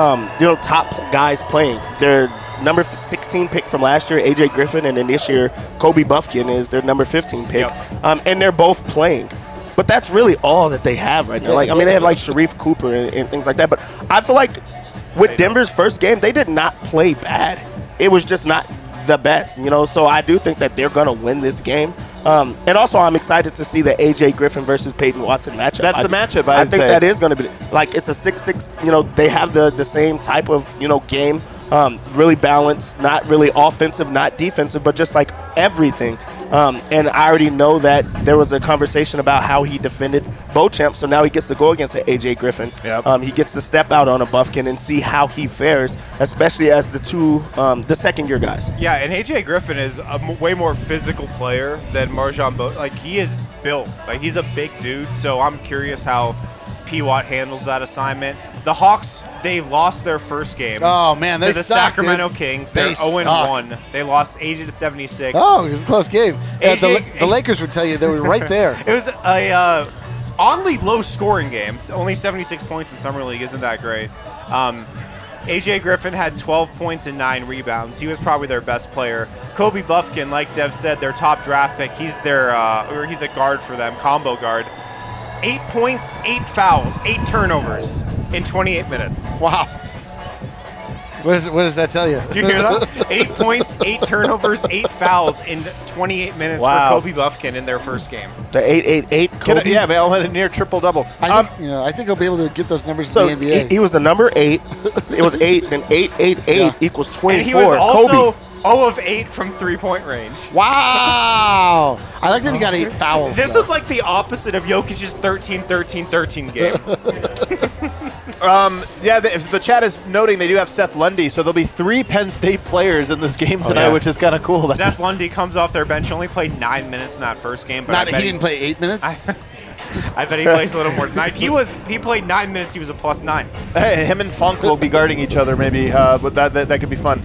top guys playing. Their number 16 pick from last year, AJ Griffin, and then this year, Kobe Buffkin is their number 15 pick. Yep. And they're both playing. But that's really all that they have right now. Like, I mean, they have like Sharif Cooper and things like that. But I feel like with Denver's first game, they did not play bad. It was just not the best, So I do think that they're going to win this game. And also, I'm excited to see the AJ Griffin versus Peyton Watson matchup. That's the matchup. I think that is going to be like it's a 6-6. They have the same type of game. Really balanced, not really offensive, not defensive, but just like everything. And I already know that there was a conversation about how he defended Beauchamp, so now he gets to go against an AJ Griffin. Yep. He gets to step out on a Buffkin and see how he fares, especially as the second-year guys. Yeah, and AJ Griffin is a way more physical player than Marjon Beauchamp. Like, he is built. Like, he's a big dude, so I'm curious how P-Watt handles that assignment. The Hawks, they lost their first game. Oh, man, they to the suck, Sacramento dude. Kings. They're 0-1. They lost 80-76. Oh, it was a close game. The Lakers would tell you they were right there. It was a oddly low-scoring game. It's only 76 points in Summer League isn't that great. AJ Griffin had 12 points and 9 rebounds. He was probably their best player. Kobe Buffkin, like Dev said, their top draft pick. He's he's a guard for them, combo guard. 8 points, 8 fouls, 8 turnovers in 28 minutes. Wow. What does that tell you? Did you hear that? 8 points, 8 turnovers, 8 fouls in 28 minutes Wow. for Kobe Buffkin in their first game. The 888 Kobe. Yeah, man, went a near triple-double. I think he'll be able to get those numbers So in the NBA. he was the number 8. It was 8, then 888 equals 24. And he was also Kobe. 0 of 8 from three-point range. Wow. I like that he got 8 fouls. This though. was like the opposite of Jokic's 13-13-13 game. Yeah, the chat is noting they do have Seth Lundy, so there'll be 3 Penn State players in this game tonight, yeah. which is kind of cool. That's Seth Lundy comes off their bench, only played 9 minutes in that first game. But He didn't play 8 minutes? I bet he plays a little more than 9. He played 9 minutes, he was a +9. Hey, him and Funk will be guarding each other, maybe, but that could be fun.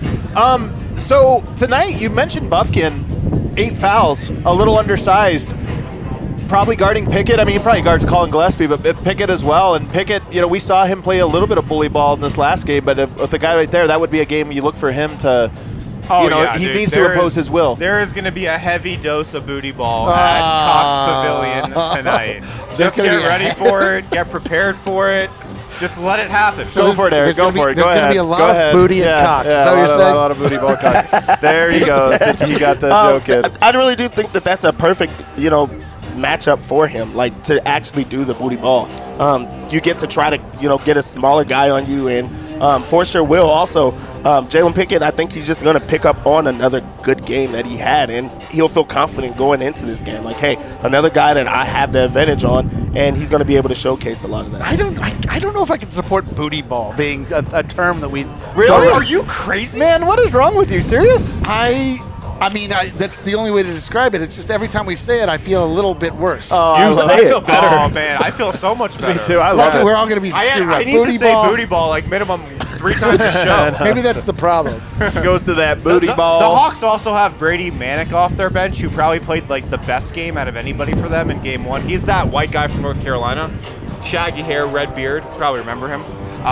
So tonight you mentioned Buffkin, 8 fouls, a little undersized, probably guarding Pickett. I mean, he probably guards Colin Gillespie, but Pickett as well. And Pickett, we saw him play a little bit of bully ball in this last game, but with the guy right there, that would be a game you look for him to. He dude, needs to impose his will. There is going to be a heavy dose of booty ball at Cox Pavilion tonight. Just get ready for it. Get prepared for it. Just let it happen. Go for it, Eric. Go for it. Go ahead. There's going to be a lot Go of ahead. booty and Cox. Is that what you're saying? A lot of booty ball Cox. There he goes. He got the joke in. I really do think that that's a perfect, matchup for him, like to actually do the booty ball. You get to try to, get a smaller guy on you, and for sure will also. Jalen Pickett, I think he's just going to pick up on another good game that he had, and he'll feel confident going into this game. Like, hey, another guy that I have the advantage on, and he's going to be able to showcase a lot of that. I don't know if I can support booty ball being a term that we Really? Are you crazy? Man, what is wrong with you? Serious? I mean, that's the only way to describe it. It's just every time we say it, I feel a little bit worse. You say I it. feel better. Oh, man. I feel so much better. Me too. I love Luckily, it. we're all going to be screwed I up. need Booty to say ball. booty ball like minimum 3 times a show. Maybe that's the problem. Goes to that booty the ball. The Hawks also have Brady Manick off their bench, who probably played like the best game out of anybody for them in game 1. He's that white guy from North Carolina. Shaggy hair, red beard. Probably remember him.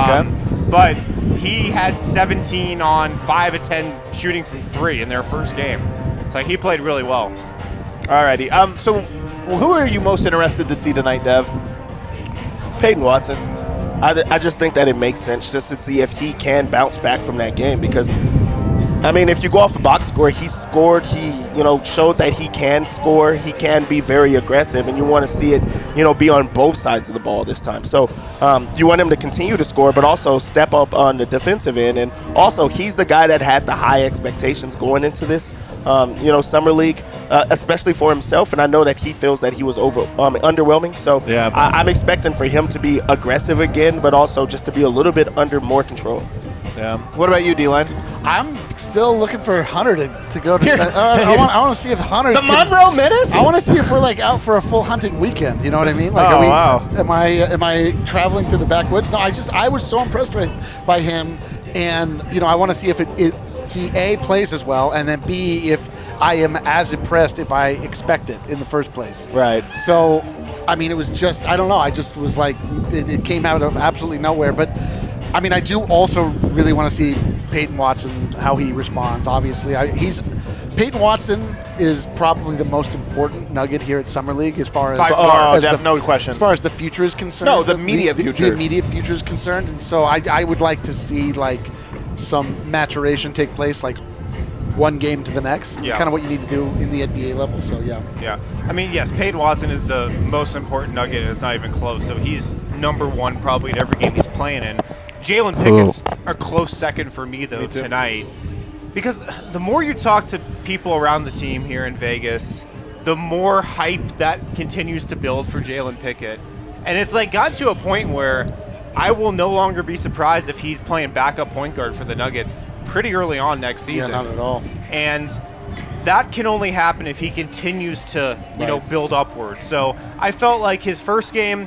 But he had 17 on 5 of 10 shooting from 3 in their first game. So he played really well. Alrighty. So who are you most interested to see tonight, Dev? Peyton Watson. I just think that it makes sense just to see if he can bounce back from that game because, I mean, if you go off a box score, he scored, he, showed that he can score, he can be very aggressive, and you want to see it, be on both sides of the ball this time. So you want him to continue to score, but also step up on the defensive end. And also, he's the guy that had the high expectations going into this, summer league, especially for himself. And I know that he feels that he was underwhelming. So Yeah. I'm expecting for him to be aggressive again, but also just to be a little bit under more control. Yeah. What about you, D-Line? I'm still looking for Hunter to go to. I want to see if Hunter. The Monroe Menace? I want to see if we're out for a full hunting weekend. You know what I mean? Oh, wow. Am I traveling through the backwoods? No, I was so impressed by him, and I want to see if he A, plays as well, and then B, if I am as impressed if I expect it in the first place. Right. So, I mean, it was just, I don't know. I just was like, it came out of absolutely nowhere. But, I mean, I do also really want to see Peyton Watson, how he responds. Obviously, Peyton Watson is probably the most important nugget here at Summer League as far as, no question. As far as the future is concerned. No, the immediate future. The immediate future is concerned. And so I would like to see, some maturation take place, one game to the next. Yeah. Kind of what you need to do in the NBA level. So, yeah. Yeah. I mean, yes, Peyton Watson is the most important nugget, and it's not even close. So he's number 1 probably in every game he's playing in. Jalen Pickett's a close second for me, though, tonight. Because the more you talk to people around the team here in Vegas, the more hype that continues to build for Jalen Pickett. And it's gotten to a point where I will no longer be surprised if he's playing backup point guard for the Nuggets pretty early on next season. Yeah, not at all. And that can only happen if he continues to, build upward. So I felt like his first game,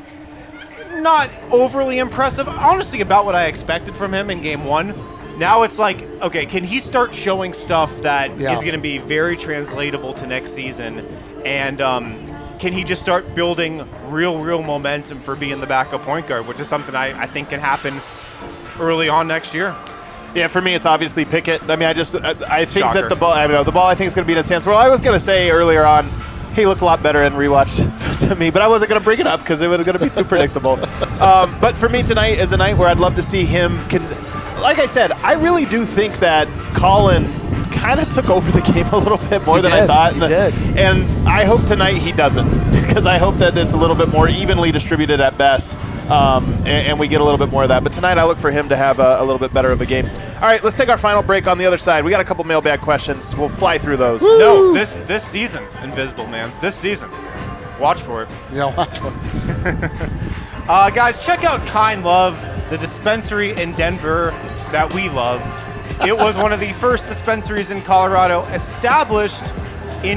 not overly impressive. Honestly, about what I expected from him in game 1. Now it's okay, can he start showing stuff that is going to be very translatable to next season? And can he just start building real momentum for being the backup point guard, which is something I think can happen early on next year. Yeah, for me, it's obviously Pickett. I mean, I think Shocker. that the ball, I think is going to be in his hands. Well, I was going to say earlier on, he looked a lot better in rewatch to me, but I wasn't going to bring it up because it was going to be too predictable. But for me, tonight is a night where I'd love to see him. like I said, I really do think that Colin kind of took over the game a little bit more than I thought. He did. And I hope tonight he doesn't, because I hope that it's a little bit more evenly distributed at best, and we get a little bit more of that. But tonight I look for him to have a little bit better of a game. All right, let's take our final break on the other side. We got a couple mailbag questions. We'll fly through those. Woo! No, this season, Invisible Man. This season. Watch for it. Yeah, watch one. Guys, check out Kind Love, the dispensary in Denver that we love. It was one of the first dispensaries in Colorado, established in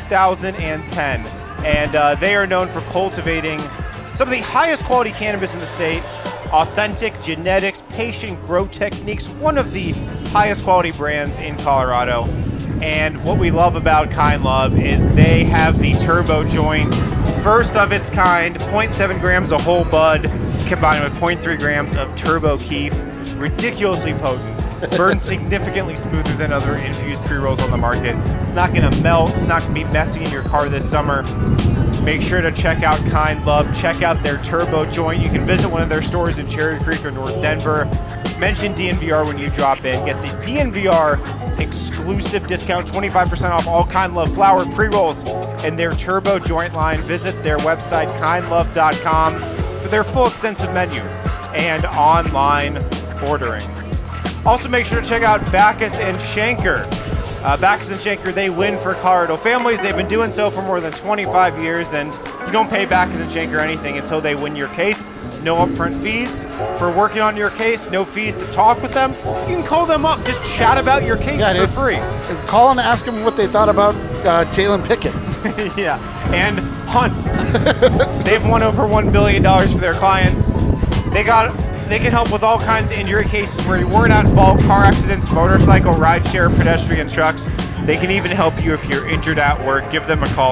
2010. And they are known for cultivating some of the highest quality cannabis in the state, authentic genetics, patient grow techniques, one of the highest quality brands in Colorado. And what we love about Kind Love is they have the Turbo Joint, first of its kind, 0.7 grams of whole bud, combined with 0.3 grams of Turbo Keef, ridiculously potent. Burns significantly smoother than other infused pre-rolls on the market. It's not going to melt. It's not going to be messy in your car this summer. Make sure to check out Kind Love. Check out their Turbo Joint. You can visit one of their stores in Cherry Creek or North Denver. Mention DNVR when you drop in. Get the DNVR exclusive discount, 25% off all Kind Love flower pre-rolls and their Turbo Joint line. Visit their website, kindlove.com, for their full extensive menu and online ordering. Also, make sure to check out Backus and Schenker. Backus and Schenker, they win for Colorado families. They've been doing so for more than 25 years, and you don't pay Backus and Schenker anything until they win your case. No upfront fees for working on your case, no fees to talk with them. You can call them up, just chat about your case for free. Call and ask them what they thought about Jalen Pickett. Yeah, and Hunt. They've won over $1 billion for their clients. They can help with all kinds of injury cases where you weren't at fault, car accidents, motorcycle, rideshare, pedestrian, trucks. They can even help you if you're injured at work. Give them a call,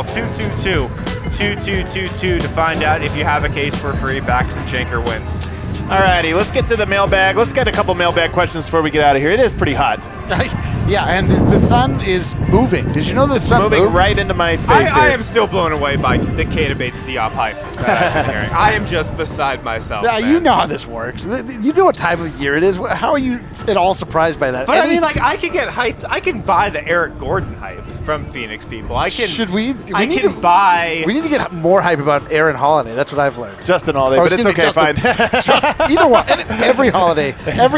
222-2222, to find out if you have a case for free. Backus and Schenker wins. All righty, let's get to the mailbag. Let's get a couple mailbag questions before we get out of here. It is pretty hot. Yeah, and the sun is moving. Did you know the sun Moving moved? right into my face I here. am still blown away by the K Debates Diop hype that I've been hearing. I am just beside myself. Yeah, man. you know how this works. You know what time of year it is. How are you at all surprised by that? But I mean, like, I can get hyped. I can buy the Eric Gordon hype from Phoenix people. I can. Should we? I need can to buy. We need to get more hype about Aaron Holiday. That's what I've learned. Justin Holiday, Or but it's excuse me, okay, Justin. fine. Either one. And every holiday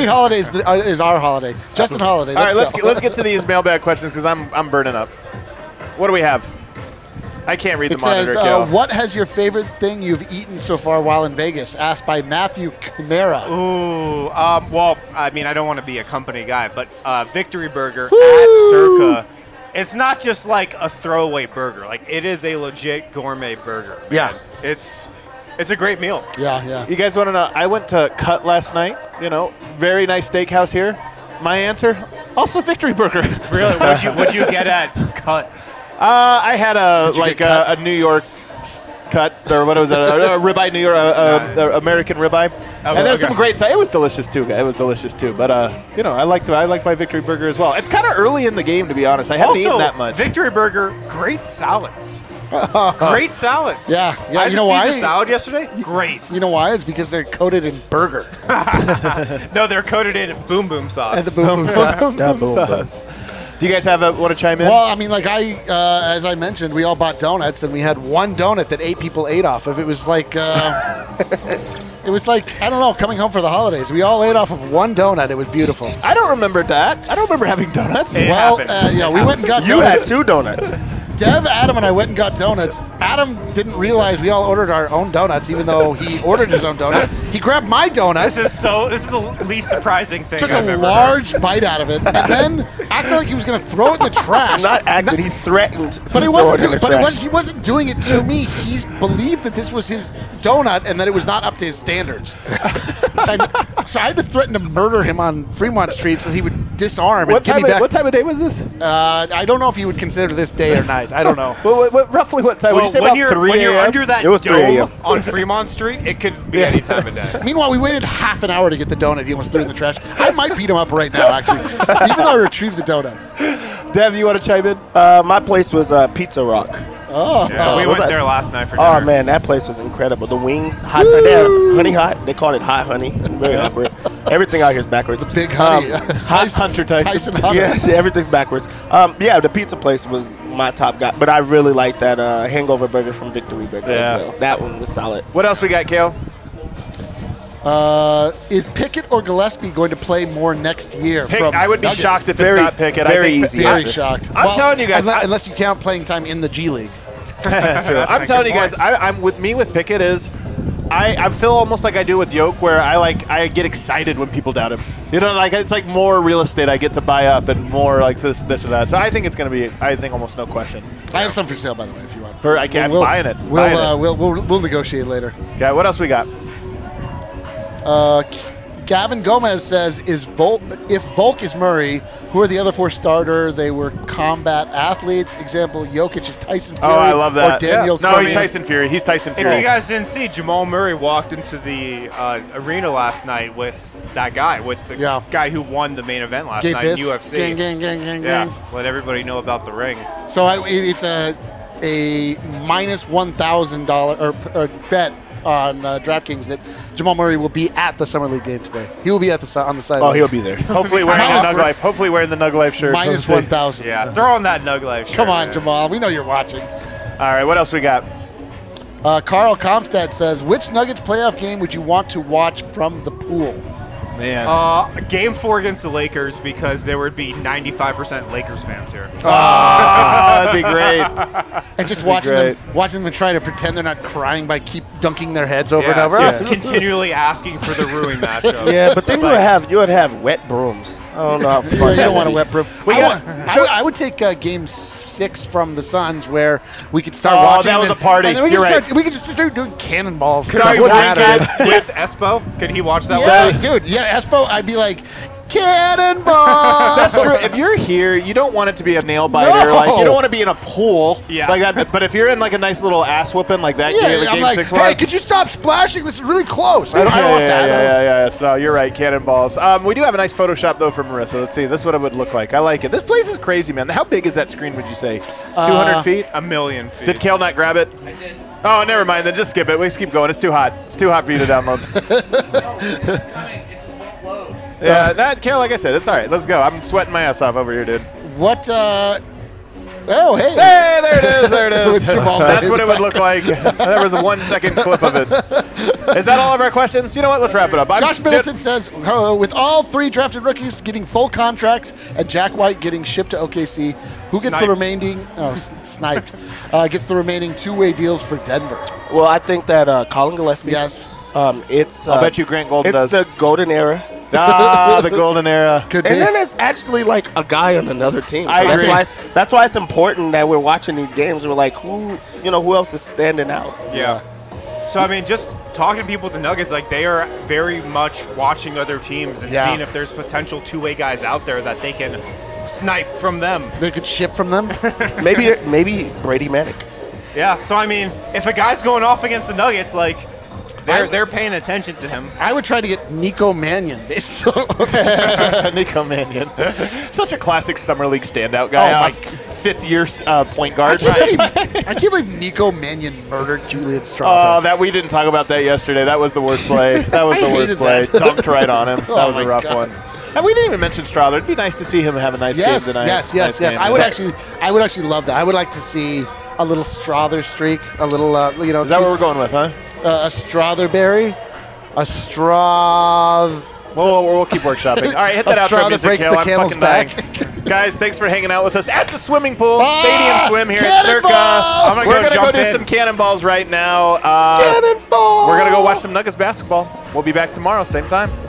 is our holiday. Justin Holiday. All right, Let's let's get to these mailbag questions because I'm burning up. What do we have? I can't read It the monitor, says, Kale. what has your favorite thing you've eaten so far while in Vegas? Asked by Matthew Camara. Ooh, well, I mean, I don't want to be a company guy, but Victory Burger at Circa. It's not just like a throwaway burger. Like, it is a legit gourmet burger. Man. Yeah. It's a great meal. Yeah. You guys want to know? I went to Cut last night. Very nice steakhouse here. My answer, also Victory Burger. Really? What'd you get at Cut? I had you get cut? a New York cut, or what was that? A ribeye, New York, American ribeye, and then some great side. It was delicious too. But I like my Victory Burger as well. It's kind of early in the game, to be honest. I haven't eaten that much. Victory Burger, great salads. Great salads. Yeah. I had You know a Caesar why? salad yesterday. Great. You know why? It's because they're coated in burger. No, they're coated in boom boom sauce. And the boom boom sauce. Do you guys want to chime in? Well, I mean, like as I mentioned, we all bought donuts, and we had one donut that 8 people ate off of. It was like, it was like, I don't know, coming home for the holidays. We all ate off of one donut. It was beautiful. I don't remember that. I don't remember having donuts. It Well, happened. we went and got You had donuts. 2 donuts. Dev, Adam, and I went and got donuts. Adam didn't realize we all ordered our own donuts, even though he ordered his own donut. He grabbed my donut, This is the least surprising thing took I've a ever large bite out of it, and then acted like he was going to throw it in the trash. Not acted. He threatened. But he to throw wasn't. it in the trash. He wasn't doing it to me. He believed that this was his donut and that it was not up to his standards. So I had to threaten to murder him on Fremont Street so he would disarm and What give time, me back. what time of day was this? I don't know if he would consider this day or night. I don't know. Roughly what time? Would you say when about you're 3 when you're a.m.? under that It was 3 dome a.m. on Fremont Street, it could be any time of day. Meanwhile, we waited half an hour to get the donut. He almost threw it in the trash. I might beat him up right now, actually, even though I retrieved the donut. Dev, you want to chime in? My place was Pizza Rock. Oh, Yeah, we was went that? there last night for dinner. Oh man, that place was incredible. The wings, hot, they're honey hot. They called it hot honey. Very accurate. Everything out here is backwards. Big honey. Hunter Tyson. Hunter. Yeah, everything's backwards. Yeah, the pizza place was my top guy, but I really like that hangover burger from Victory Burger as well. That one was solid. What else we got, Kale? Is Pickett or Gillespie going to play more next year? I would be Nuggets? shocked if Very- it's not Pickett. very I think easy. Very answer. shocked. I'm telling you guys, unless you count playing time in the G League. I'm telling you guys, I'm with Pickett is I feel almost like I do with Yoke, where I get excited when people doubt him. You know, like it's like more real estate I get to buy up, and more like this or that. So I think it's going to be, I think almost no question. I have some for sale, by the way, if you want. I'm buying it. We'll negotiate later. Okay, what else we got? Gavin Gomez says, if Volk is Murray, who are the other 4 starter? They were combat athletes. Example, Jokic is Tyson Fury. Oh, I love that. Or Daniel No, he's Cormier. Tyson Fury. He's Tyson Fury. If you guys didn't see, Jamal Murray walked into the arena last night with that guy, with the guy who won the main event last night in UFC. Gang. Yeah, let everybody know about the ring. So it's a minus $1,000 or bet on DraftKings that Jamal Murray will be at the Summer League game today. He will be at on the sidelines. Oh, he'll be there. Hopefully wearing the Nug Life. Hopefully wearing the Nug Life shirt. Minus 1,000. Yeah, throw on that Nug Life shirt. Come on, man. Jamal. We know you're watching. All right, what else we got? Carl Comstad says, which Nuggets playoff game would you want to watch from the pool? Man. Game 4 against the Lakers, because there would be 95% Lakers fans here. That'd be great. And just watching them try to pretend they're not crying by keep dunking their heads over and over. Just continually asking for the Rui matchup. Yeah, but then you would have wet brooms. I don't know how Yeah, fun you that don't would want a be. wet broom. I would take Game 6 from the Suns, where we could start Oh, watching. that was a party. And then we You're could right. we could just start doing cannonballs. Could Stuff I wouldn't watch matter. that with Espo? Could he watch that Yeah, with us? dude. Yeah, Espo. I'd be like, cannonball. That's true. If you're here, you don't want it to be a nail biter. No. Like you don't want to be in a pool Yeah. like that. But if you're in like a nice little ass whooping like that game, I'm game like, 6 hey, was. could you stop splashing? This is really close. I don't want that. Yeah. No, you're right. Cannonballs. We do have a nice Photoshop though from Marissa. Let's see. This is what it would look like. I like it. This place is crazy, man. How big is that screen? Would you say 200 feet? A million feet. Did Kale not grab it? I did. Oh, never mind. Then just skip it. Let's keep going. It's too hot. It's too hot for you to download. Yeah, that Kale. Like I said, it's all right. Let's go. I'm sweating my ass off over here, dude. What? Oh, hey. Hey, there it is. There it is. With Jamal That's Murray what in it the would look like. There was a 1 second clip of it. Is that all of our questions? You know what? Let's wrap it up. Josh Middleton says, with all 3 drafted rookies getting full contracts and Jack White getting shipped to OKC, who gets the remaining? Oh, sniped. Gets the remaining 2-way deals for Denver. Well, I think that Colin Gillespie. Yes. It's. I'll bet you Grant Golden it's does. the golden era. The golden era. Could be. And then it's actually like a guy on another team. So I agree. That's why it's important that we're watching these games. We're like, who else is standing out? Yeah. So, I mean, just talking to people with the Nuggets, like, they are very much watching other teams and seeing if there's potential 2-way guys out there that they can snipe from them. They could ship from them. Maybe Brady Manic. Yeah. So, I mean, if a guy's going off against the Nuggets, like, they're paying attention to him. I would try to get Nico Mannion. Nico Mannion. Such a classic Summer League standout guy. Oh, fifth-year point guard. I can't believe Nico Mannion murdered Julian Oh, Strauss. that we didn't talk about that yesterday. That was the worst play. That was I the worst hated play. that. Dunked right on him. That Oh was a my rough God. one. And we didn't even mention Strother. It'd be nice to see him have a nice game tonight. Yes. Nice game. I would actually love that. I would like to see a little Strother streak, a little, Is that what we're going with, huh? a Strotherberry, a Straw. We'll keep workshopping. All right, hit that outro Strother music, breaks Kale. the I'm camel's fucking dying. back. Guys, thanks for hanging out with us at the swimming pool, Stadium Swim here at Circa. Cannonball! I'm We're gonna going to go jump do in. some cannonballs right now. Cannonball! We're going to go watch some Nuggets basketball. We'll be back tomorrow, same time.